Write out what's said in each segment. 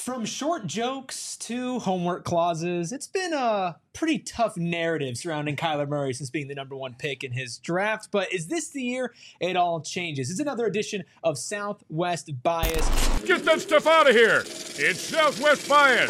From short jokes to homework clauses, it's been a pretty tough narrative surrounding Kyler Murray since being the number one pick in his draft. But is this the year it all changes? It's another edition of Southwest Bias. Get that stuff out of here. It's Southwest Bias.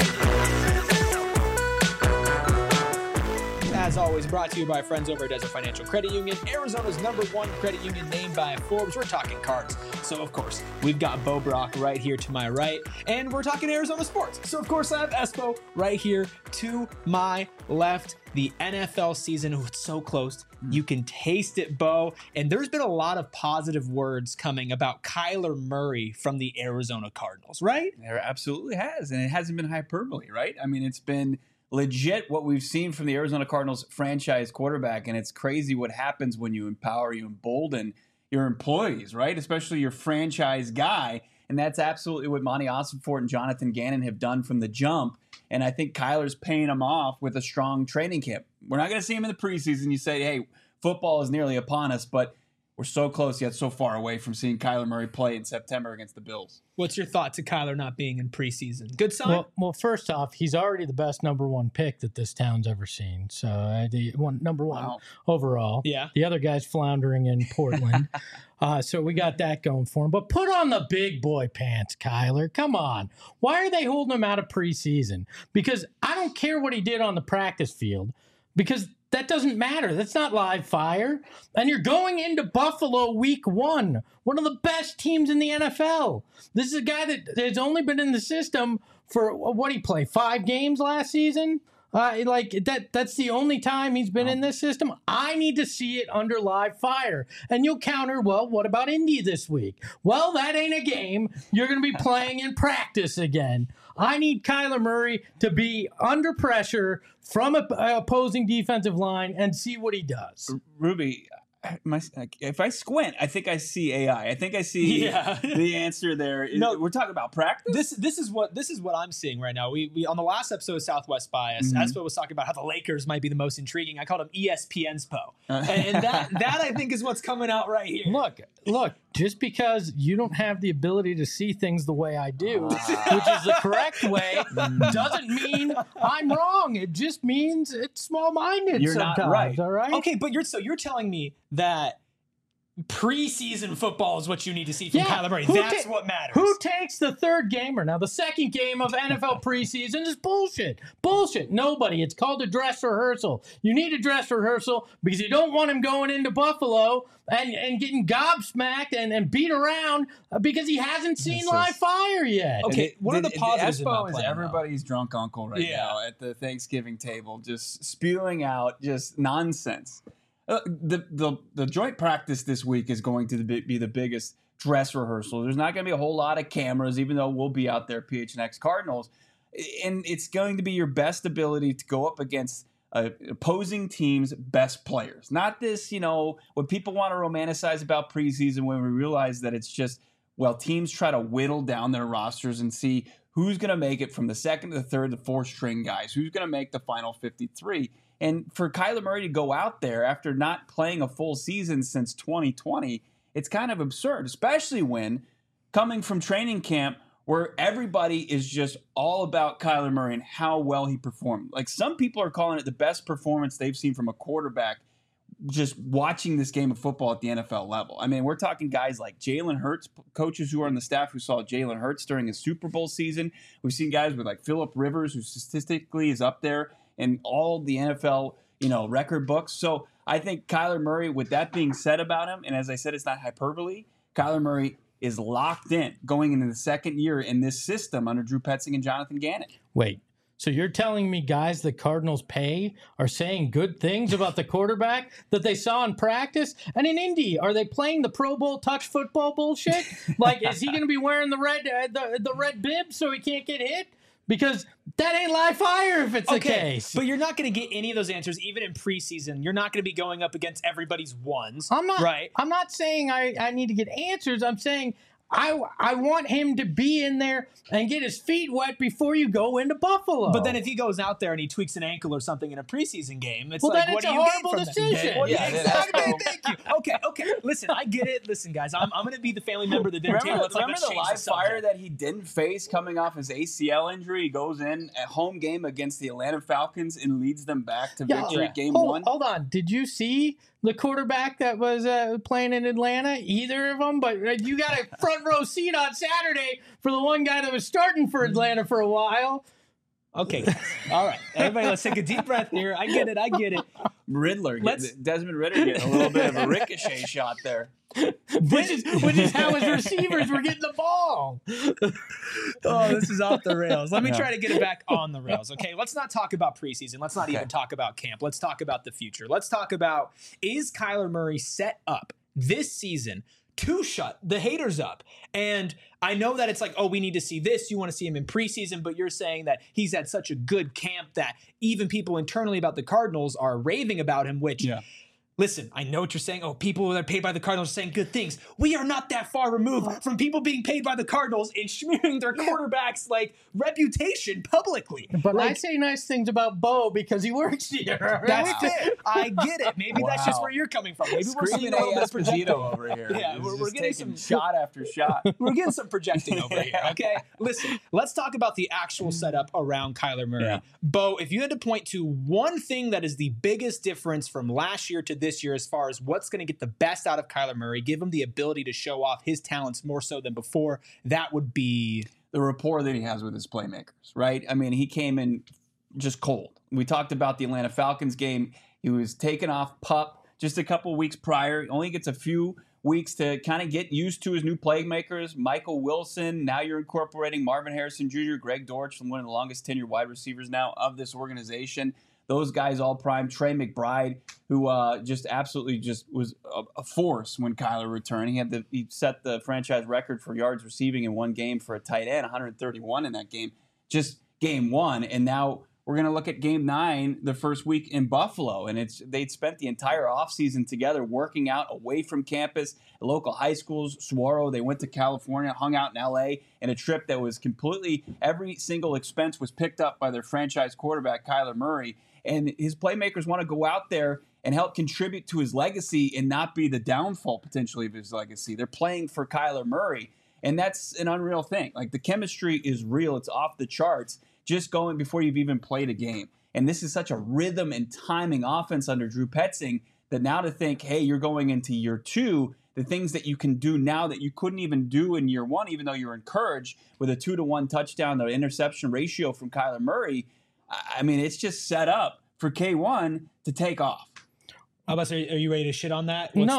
As always, brought to you by friends over at Desert Financial Credit Union, Arizona's #1 credit union named by Forbes. We're talking cards. So, of course, we've got Bo Brock right here to my right, and we're talking Arizona sports. So, of course, I have Espo right here to my left. The NFL season, it's so close. You can taste it, Bo. And there's been a lot of positive words coming about Kyler Murray from the Arizona Cardinals, right? There absolutely has, and it hasn't been hyperbole, right? I mean, it's been legit what we've seen from the Arizona Cardinals franchise quarterback, and it's crazy what happens when you empower, you embolden your employees, right? Especially your franchise guy, and that's absolutely what Monty Ossenfort and Jonathan Gannon have done from the jump, and I think Kyler's paying them off with a strong training camp. We're not going to see him in the preseason. You say, hey, football is nearly upon us, but we're so close yet so far away from seeing Kyler Murray play in September against the Bills. What's your thought to Kyler not being in preseason? Good sign? Well, first off, he's already the best #1 pick that this town's ever seen. So number one overall. Yeah. The other guy's floundering in Portland. So we got that going for him. But put on the big boy pants, Kyler. Come on. Why are they holding him out of preseason? Because I don't care what he did on the practice field, because that doesn't matter. That's not live fire. And you're going into Buffalo week 1, one of the best teams in the NFL. This is a guy that has only been in the system for, what did he play, 5 games last season? That's the only time he's been in this system. I need to see it under live fire. And you'll counter, well, what about Indy this week? Well, that ain't a game. You're going to be playing in practice again. I need Kyler Murray to be under pressure from an opposing defensive line and see what he does. Ruby, if I squint, I think I see AI. I think I see the answer there. No, we're talking about practice. This is what I'm seeing right now. We on the last episode of Southwest Bias, Espo was talking about how the Lakers might be the most intriguing. I called him ESPN's Po, and that I think is what's coming out right here. Look. Just because you don't have the ability to see things the way I do, which is the correct way, doesn't mean I'm wrong. It just means it's small-minded. You're sometimes, not right. All right. Okay, but you're telling me that preseason football is what you need to see from Kyler Murray. That's what matters. Who takes the third gamer? Now, the second game of NFL preseason is bullshit. Bullshit. Nobody. It's called a dress rehearsal. You need a dress rehearsal because you don't want him going into Buffalo and getting gobsmacked and beat around because he hasn't seen live fire yet. Okay, what are the positives about Espo is playing everybody's drunk uncle right now at the Thanksgiving table, just spewing out just nonsense. The joint practice this week is going to be the biggest dress rehearsal. There's not going to be a whole lot of cameras, even though we'll be out there, PHNX Cardinals. And it's going to be your best ability to go up against opposing teams' best players. Not this, what people want to romanticize about preseason when we realize that it's just, teams try to whittle down their rosters and see who's going to make it from the second to the third to fourth string guys, who's going to make the final 53. And for Kyler Murray to go out there after not playing a full season since 2020, it's kind of absurd, especially when coming from training camp where everybody is just all about Kyler Murray and how well he performed. Like, some people are calling it the best performance they've seen from a quarterback just watching this game of football at the NFL level. I mean, we're talking guys like Jalen Hurts, coaches who are on the staff who saw Jalen Hurts during his Super Bowl season. We've seen guys with like Phillip Rivers, who statistically is up there in all the NFL, record books. So I think Kyler Murray, with that being said about him, and as I said, it's not hyperbole, Kyler Murray is locked in going into the second year in this system under Drew Petzing and Jonathan Gannon. Wait. So you're telling me guys the Cardinals pay are saying good things about the quarterback that they saw in practice? And in Indy, are they playing the Pro Bowl touch football bullshit? Like, is he going to be wearing the red bib so he can't get hit? Because that ain't live fire if it's the case. But you're not going to get any of those answers even in preseason. You're not going to be going up against everybody's ones. I'm not. Right. I'm not saying I need to get answers. I'm saying I want him to be in there and get his feet wet before you go into Buffalo. But then if he goes out there and he tweaks an ankle or something in a preseason game, it's well, like, then what it's do a you horrible gain from decision. that? Well, Yeah, exactly. that's Thank you. Okay. Listen, I get it. Listen, guys, I'm going to be the family member that didn't Remember, table. remember the live fire that he didn't face coming off his ACL injury? He goes in at home game against the Atlanta Falcons and leads them back to victory game one. Hold on. Did you see the quarterback that was playing in Atlanta? Either of them? But you got a front row seat on Saturday for the one guy that was starting for Atlanta for a while. Okay. All right. Everybody, let's take a deep breath here. I get it. Desmond Ritter getting a little bit of a ricochet shot there. Which is how his receivers were getting the ball. Oh, this is off the rails. Let me try to get it back on the rails. Okay, let's not talk about preseason. Let's not even talk about camp. Let's talk about the future. Let's talk about, is Kyler Murray set up this season to shut the haters up? And I know that it's like, oh, we need to see this. You want to see him in preseason, but you're saying that he's had such a good camp that even people internally about the Cardinals are raving about him, which... Yeah. Listen, I know what you're saying. Oh, people that are paid by the Cardinals are saying good things. We are not that far removed from people being paid by the Cardinals and smearing their quarterback's reputation publicly. But I say nice things about Bo because he works here. That's it. I get it. Maybe that's just where you're coming from. Maybe we're seeing a little bit of projecting over here. Yeah, we're getting some shot after shot. We're getting some projecting over here. Okay, listen. Let's talk about the actual setup around Kyler Murray. Yeah. Bo, if you had to point to one thing that is the biggest difference from last year to this year as far as what's going to get the best out of Kyler Murray, give him the ability to show off his talents more so than before, that would be the rapport that he has with his playmakers, right? I mean, he came in just cold. We talked about the Atlanta Falcons game. He was taken off PUP just a couple weeks prior. He only gets a few weeks to kind of get used to his new playmakers. Michael Wilson, now you're incorporating Marvin Harrison Jr., Greg Dortch, one of the longest tenured wide receivers now of this organization. Those guys all prime. Trey McBride, who just absolutely just was a force when Kyler returned. He set the franchise record for yards receiving in one game for a tight end, 131 in that game, just game one. And now we're going to look at game 9, the first week in Buffalo. And they'd spent the entire offseason together working out away from campus, local high schools, Saguaro. They went to California, hung out in L.A., and a trip that was completely, every single expense was picked up by their franchise quarterback, Kyler Murray. And his playmakers want to go out there and help contribute to his legacy and not be the downfall potentially of his legacy. They're playing for Kyler Murray, and that's an unreal thing. Like, the chemistry is real. It's off the charts just going before you've even played a game. And this is such a rhythm and timing offense under Drew Petzing that now to think, hey, you're going into year 2, the things that you can do now that you couldn't even do in year 1, even though you're encouraged with a 2-to-1 touchdown, the interception ratio from Kyler Murray, I mean, it's just set up for K1 to take off. Are you ready to shit on that? No,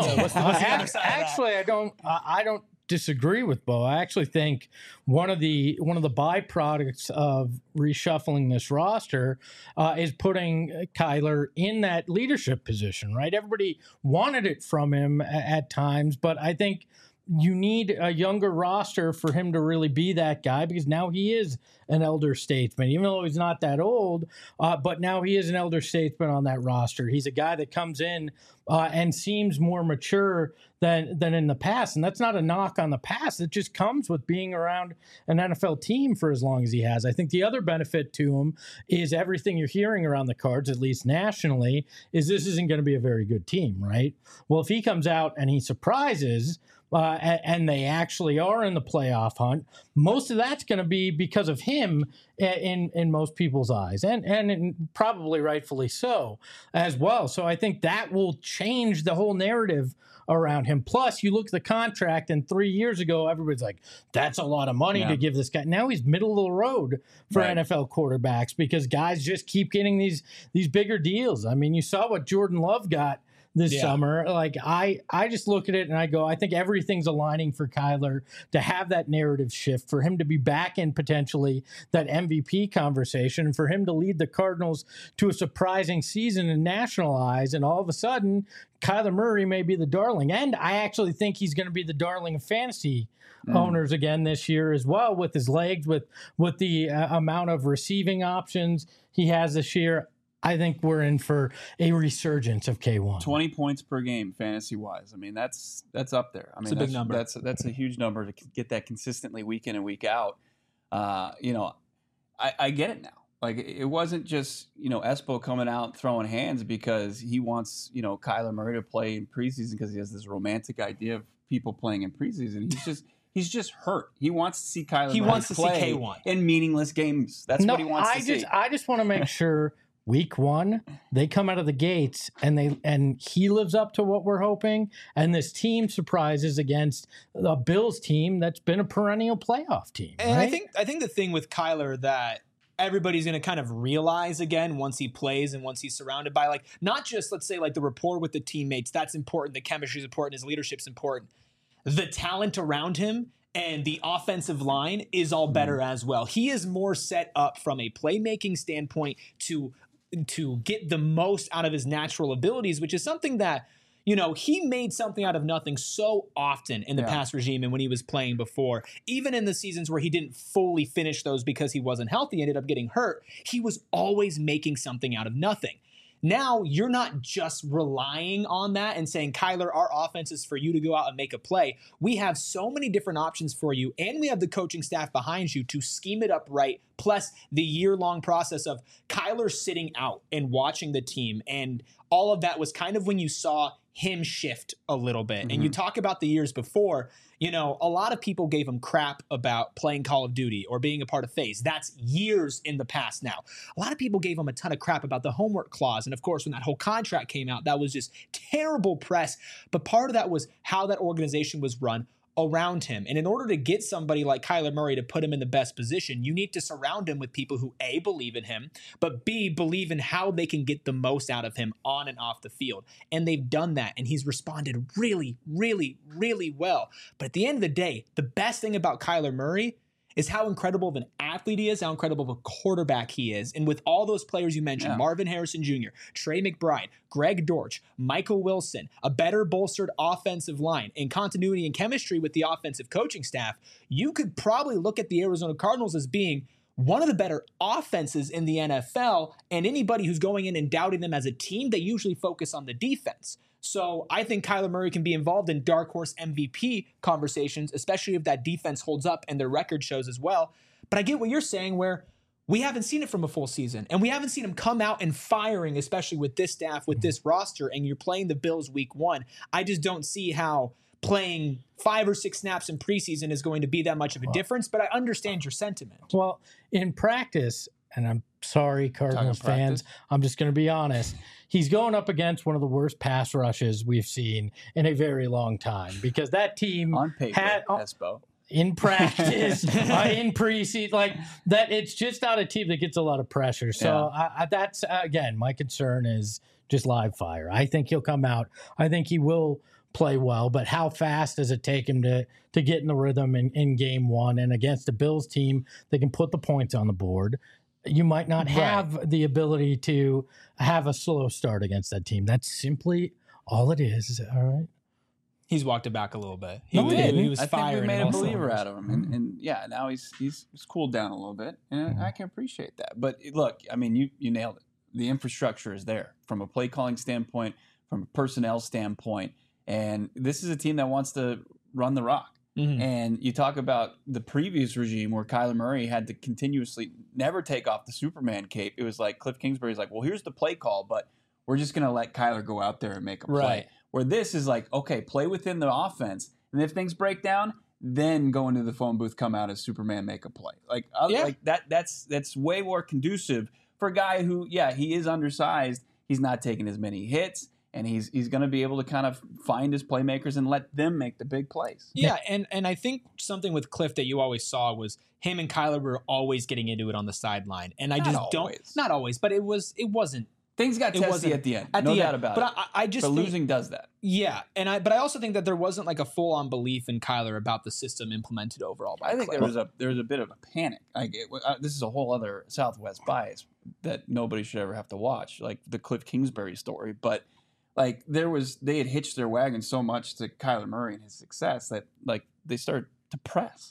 Actually, I don't disagree with Bo. I actually think one of the byproducts of reshuffling this roster is putting Kyler in that leadership position. Right? Everybody wanted it from him at times, but I think you need a younger roster for him to really be that guy, because now he is an elder statesman, even though he's not that old, but now he is an elder statesman on that roster. He's a guy that comes in and seems more mature than in the past. And that's not a knock on the past. It just comes with being around an NFL team for as long as he has. I think the other benefit to him is everything you're hearing around the Cards, at least nationally, is this isn't going to be a very good team, right? Well, if he comes out and he surprises, and they actually are in the playoff hunt, most of that's going to be because of him in most people's eyes, and probably rightfully so as well. So I think that will change the whole narrative around him. Plus, you look at the contract, and 3 years ago, everybody's like, that's a lot of money to give this guy. Now he's middle of the road for NFL quarterbacks, because guys just keep getting these bigger deals. I mean, you saw what Jordan Love got this summer. Like, I just look at it and I go, I think everything's aligning for Kyler to have that narrative shift, for him to be back in potentially that MVP conversation, and for him to lead the Cardinals to a surprising season in national eyes. And all of a sudden, Kyler Murray may be the darling. And I actually think he's going to be the darling of fantasy owners again this year as well, with his legs, with the amount of receiving options he has this year. I think we're in for a resurgence of K1. 20 points per game, fantasy wise. I mean, that's up there. I mean, It's a big number. That's a huge number to get that consistently week in and week out. I get it now. Like, it wasn't just, Espo coming out throwing hands because he wants, Kyler Murray to play in preseason because he has this romantic idea of people playing in preseason. He's just hurt. He wants to see Kyler Murray play K1 in meaningless games. That's what he wants to see. I just want to make sure week 1 they come out of the gates and he lives up to what we're hoping, and this team surprises against the Bills team that's been a perennial playoff team. And right? I think the thing with Kyler that everybody's going to kind of realize again once he plays and once he's surrounded by, like, not just, let's say, like the rapport with the teammates, that's important, the chemistry is important, his leadership's important. The talent around him and the offensive line is all better as well. He is more set up from a playmaking standpoint to get the most out of his natural abilities, which is something that, he made something out of nothing so often in the past regime and when he was playing before. Even in the seasons where he didn't fully finish those because he wasn't healthy, ended up getting hurt, he was always making something out of nothing. Now you're not just relying on that and saying, Kyler, our offense is for you to go out and make a play. We have so many different options for you, and we have the coaching staff behind you to scheme it up right, plus the year-long process of Kyler sitting out and watching the team. And all of that was kind of when you saw him shift a little bit. And you talk about the years before, a lot of people gave him crap about playing Call of Duty or being a part of FaZe. That's years in the past now. A lot of people gave him a ton of crap about the homework clause. And of course, when that whole contract came out, that was just terrible press. But part of that was how that organization was run around him. And in order to get somebody like Kyler Murray to put him in the best position, you need to surround him with people who A, believe in him, but B, believe in how they can get the most out of him on and off the field. And they've done that, and he's responded really, really, really well. But at the end of the day, the best thing about Kyler Murray is how incredible of an athlete he is, how incredible of a quarterback he is. And with all those players you mentioned, Marvin Harrison Jr., Trey McBride, Greg Dortch, Michael Wilson, a better bolstered offensive line, and continuity and chemistry with the offensive coaching staff, you could probably look at the Arizona Cardinals as being one of the better offenses in the NFL, and anybody who's going in and doubting them as a team, they usually focus on the defense. So I think Kyler Murray can be involved in dark horse MVP conversations, especially if that defense holds up and their record shows as well. But I get what you're saying, where we haven't seen it from a full season, and we haven't seen him come out and firing, especially with this staff, with this roster, and you're playing the Bills week 1. I just don't see how playing 5 or 6 snaps in preseason is going to be that much of a difference, but I understand your sentiment. Well, in practice, and I'm sorry, Cardinals fans, I'm just going to be honest, he's going up against one of the worst pass rushes we've seen in a very long time, because that team on paper, Espo. In practice, in preseason, like that, it's just not a team that gets a lot of pressure. So that's, again, my concern is just live fire. I think he'll come out. I think he will play well, but how fast does it take him to get in the rhythm in game 1? And against the Bills team, they can put the points on the board. You might not have the ability to have a slow start against that team. That's simply all it is. All right. He's walked it back a little bit. He was I firing. think we made a believer out of him, and now he's cooled down a little bit, and I can appreciate that. But look, I mean, you nailed it. The infrastructure is there from a play calling standpoint, from a personnel standpoint, and this is a team that wants to run the rock. And you talk about the previous regime where Kyler Murray had to continuously never take off the Superman cape. It was like Cliff Kingsbury's like, well, here's the play call, but we're just going to let Kyler go out there and make a play. Right. Where this is like, okay, play within the offense, and if things break down, then go into the phone booth, come out as Superman, make a play. Like that. That's way more conducive for a guy who, he is undersized. He's not taking as many hits. And he's going to be able to kind of find his playmakers and let them make the big plays. Yeah, and I think something with Cliff that you always saw was him and Kyler were always getting into it on the sideline. And I just not always, but it wasn't. Things got testy at the end. No doubt about it. But I just think losing does that. Yeah, but I also think that there wasn't like a full-on belief in Kyler about the system implemented overall by I think Cliff. there was a bit of a panic. This is a whole other Southwest bias that nobody should ever have to watch, like the Cliff Kingsbury story, but like they had hitched their wagon so much to Kyler Murray and his success that like they started to press.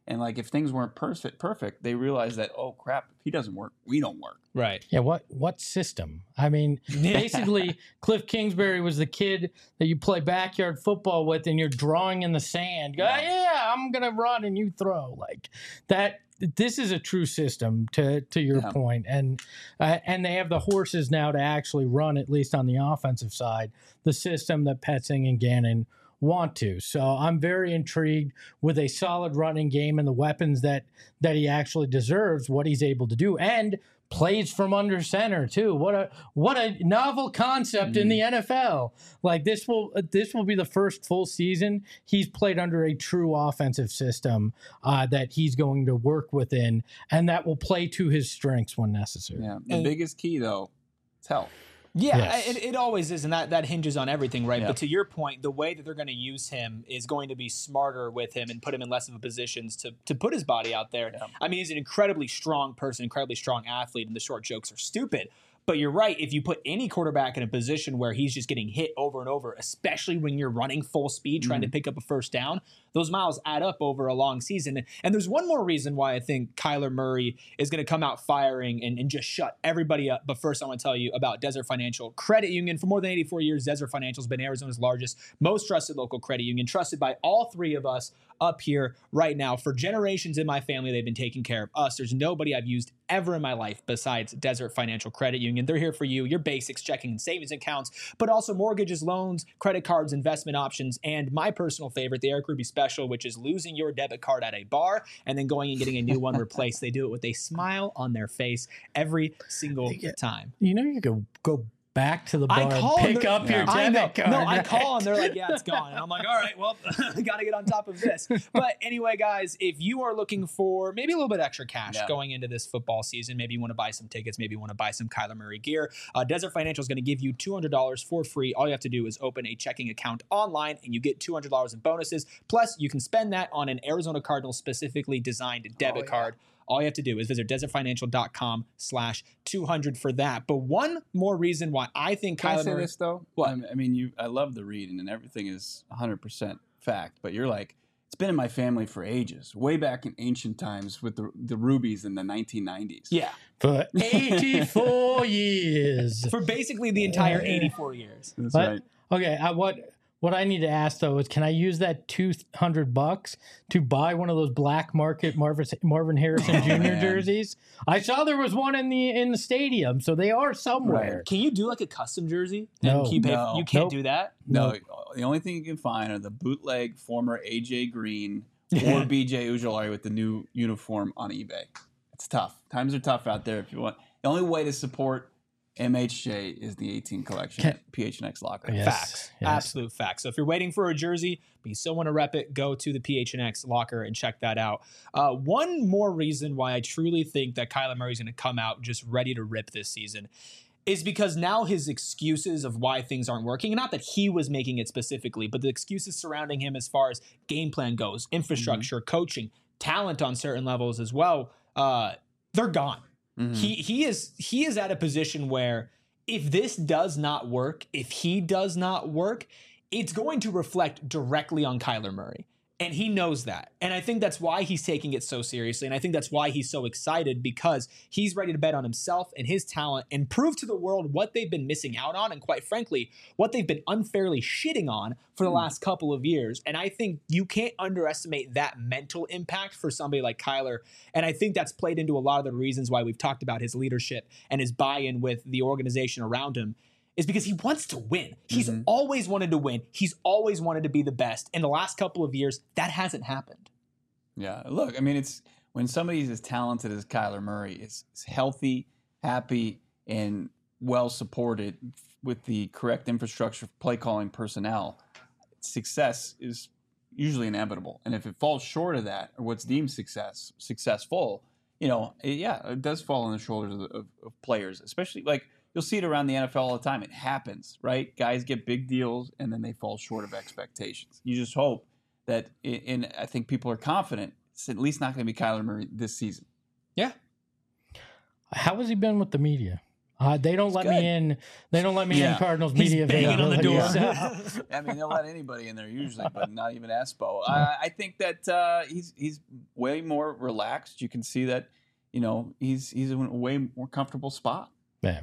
And like if things weren't perfect, they realized that, oh crap, if he doesn't work, we don't work. Right. Yeah, what system? I mean, basically, Cliff Kingsbury was the kid that you play backyard football with, and you're drawing in the sand. Go, yeah, I'm gonna run and you throw like that. This is a true system, to your point, and they have the horses now to actually run, at least on the offensive side, the system that Petzing and Gannon want to. So I'm very intrigued with a solid running game and the weapons that he actually deserves, what he's able to do, and plays from under center too. What a novel concept in the NFL. Like this will be the first full season he's played under a true offensive system that he's going to work within, and that will play to his strengths when necessary. Yeah. The biggest key though, is health. Yeah, Yes. it always is, and that hinges on everything, right? Yeah. But to your point, the way that they're going to use him is going to be smarter with him and put him in less of a positions to put his body out there. Yeah. I mean, he's an incredibly strong person, incredibly strong athlete, and the short jokes are stupid. But you're right. If you put any quarterback in a position where he's just getting hit over and over, especially when you're running full speed trying to pick up a first down, those miles add up over a long season. And there's one more reason why I think Kyler Murray is going to come out firing and just shut everybody up. But first, I want to tell you about Desert Financial Credit Union. For more than 84 years, Desert Financial has been Arizona's largest, most trusted local credit union, trusted by all three of us up here right now. For generations in my family, they've been taking care of us. There's nobody I've used ever in my life besides Desert Financial Credit Union. They're here for you, your basics, checking and savings accounts, but also mortgages, loans, credit cards, investment options, and my personal favorite, the Eric Ruby Special, which is losing your debit card at a bar and then going and getting a new one replaced. They do it with a smile on their face every single time. You know, you could go back to the bar and pick up your I know. debit card. No, I call and they're like, yeah, it's gone. And I'm like, all right, well, got to get on top of this. But anyway, guys, if you are looking for maybe a little bit extra cash going into this football season, maybe you want to buy some tickets, maybe you want to buy some Kyler Murray gear, Desert Financial is going to give you $200 for free. All you have to do is open a checking account online and you get $200 in bonuses. Plus, you can spend that on an Arizona Cardinals specifically designed debit card. All you have to do is visit desertfinancial.com/200 for that. But one more reason why I think Can Kyler I say Murray... this though? What? I mean, I love the reading and everything is 100% fact, but you're like, it's been in my family for ages, way back in ancient times with the Rubies in the 1990s. Yeah. For 84 years. For basically the entire 84 years. That's But- right. Okay, what I need to ask though is, can I use that $200 to buy one of those black market Marvin Harrison Jr. Man. jerseys? I saw there was one in the stadium, so they are somewhere. Can you do like a custom jersey? No. And you No. can't Nope. do that? No, the only thing you can find are the bootleg former AJ Green or BJ Ujulari with the new uniform on eBay. It's tough. Times are tough out there. If you want, the only way to support MHJ is the 18 collection at PHNX Locker. Yes. Facts. Yes. Absolute facts. So if you're waiting for a jersey, but you still want to rep it, go to the PHNX locker and check that out. One more reason why I truly think that Kyler Murray's going to come out just ready to rip this season is because now his excuses of why things aren't working, and not that he was making it specifically, but the excuses surrounding him as far as game plan goes, infrastructure, coaching, talent on certain levels as well, they're gone. He is at a position where if this does not work, if he does not work, it's going to reflect directly on Kyler Murray. And he knows that. And I think that's why he's taking it so seriously. And I think that's why he's so excited, because he's ready to bet on himself and his talent and prove to the world what they've been missing out on. And quite frankly, what they've been unfairly shitting on for the last couple of years. And I think you can't underestimate that mental impact for somebody like Kyler. And I think that's played into a lot of the reasons why we've talked about his leadership and his buy-in with the organization around him. Is because he wants to win. He's always wanted to win. He's always wanted to be the best. In the last couple of years, that hasn't happened. Yeah, look, I mean, it's when somebody's as talented as Kyler Murray is healthy, happy, and well supported with the correct infrastructure, play calling personnel, success is usually inevitable. And if it falls short of that, or what's deemed successful, it does fall on the shoulders of players, especially like. You'll see it around the NFL all the time. It happens, right? Guys get big deals, and then they fall short of expectations. You just hope that, and I think people are confident, it's at least not going to be Kyler Murray this season. Yeah. How has he been with the media? They don't let me in. They don't let me in Cardinals media banging on the door. I mean, they'll let anybody in there usually, but not even Espo. I think that he's way more relaxed. You can see that, he's in a way more comfortable spot. Yeah.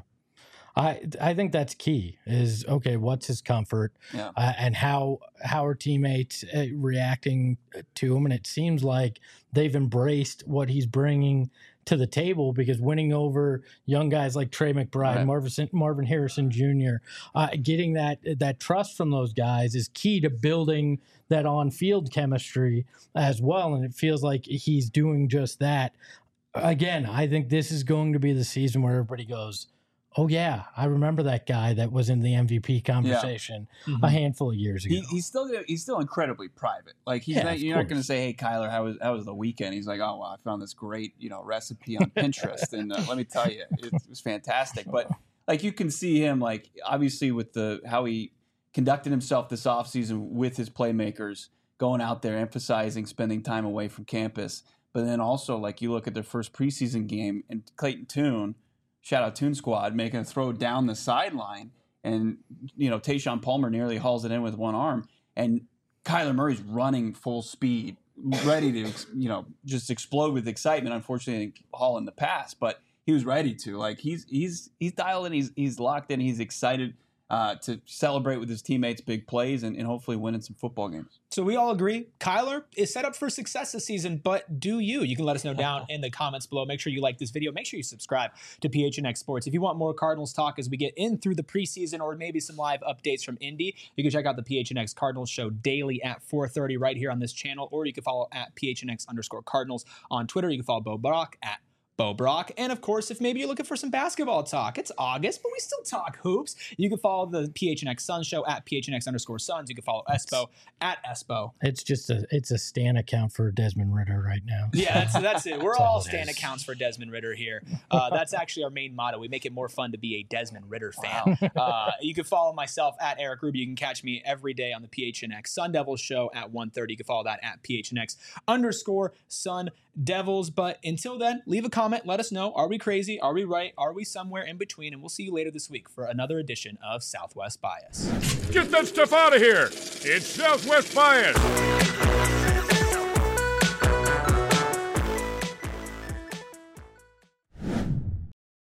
I think that's key is, okay, what's his comfort and how are teammates reacting to him? And it seems like they've embraced what he's bringing to the table, because winning over young guys like Trey McBride, Marvin Harrison Jr., getting that trust from those guys is key to building that on-field chemistry as well. And it feels like he's doing just that. Again, I think this is going to be the season where everybody goes, oh, yeah, I remember that guy that was in the MVP conversation a handful of years ago. He's still incredibly private. Like, you're not going to say, hey, Kyler, how was the weekend? He's like, oh, well, I found this great, recipe on Pinterest. And let me tell you, it was fantastic. But, like, you can see him, like, obviously with how he conducted himself this offseason with his playmakers, going out there, emphasizing spending time away from campus. But then also, like, you look at their first preseason game, and Clayton Tune, shout out Toon Squad, making a throw down the sideline, and Tayshaun Palmer nearly hauls it in with one arm, and Kyler Murray's running full speed, ready to just explode with excitement. Unfortunately, I didn't haul in the pass, but he was ready to. Like, he's dialed in, he's locked in, he's excited to celebrate with his teammates big plays and hopefully winning some football games. So we all agree Kyler is set up for success this season, but do you? You can let us know down in the comments below. Make sure you like this video. Make sure you subscribe to PHNX Sports. If you want more Cardinals talk as we get in through the preseason, or maybe some live updates from Indy, you can check out the PHNX Cardinals show daily at 4:30 right here on this channel, or you can follow at PHNX_Cardinals on Twitter. You can follow Bo Brock at Bo Brock. And of course, if maybe you're looking for some basketball talk, it's August, but we still talk hoops. You can follow the PHNX Suns show at PHNX_Suns. You can follow Espo at Espo. It's a Stan account for Desmond Ritter right now. Yeah, that's it. We're all Stan accounts for Desmond Ritter here. That's actually our main motto. We make it more fun to be a Desmond Ritter fan. Wow. You can follow myself at Eric Ruby. You can catch me every day on the PHNX Sun Devils show at 1:30. You can follow that at PHNX_Sun Devils. But until then, leave a comment. Let us know. Are we crazy? Are we right? Are we somewhere in between? And we'll see you later this week for another edition of Southwest Bias. Get that stuff out of here. It's Southwest Bias.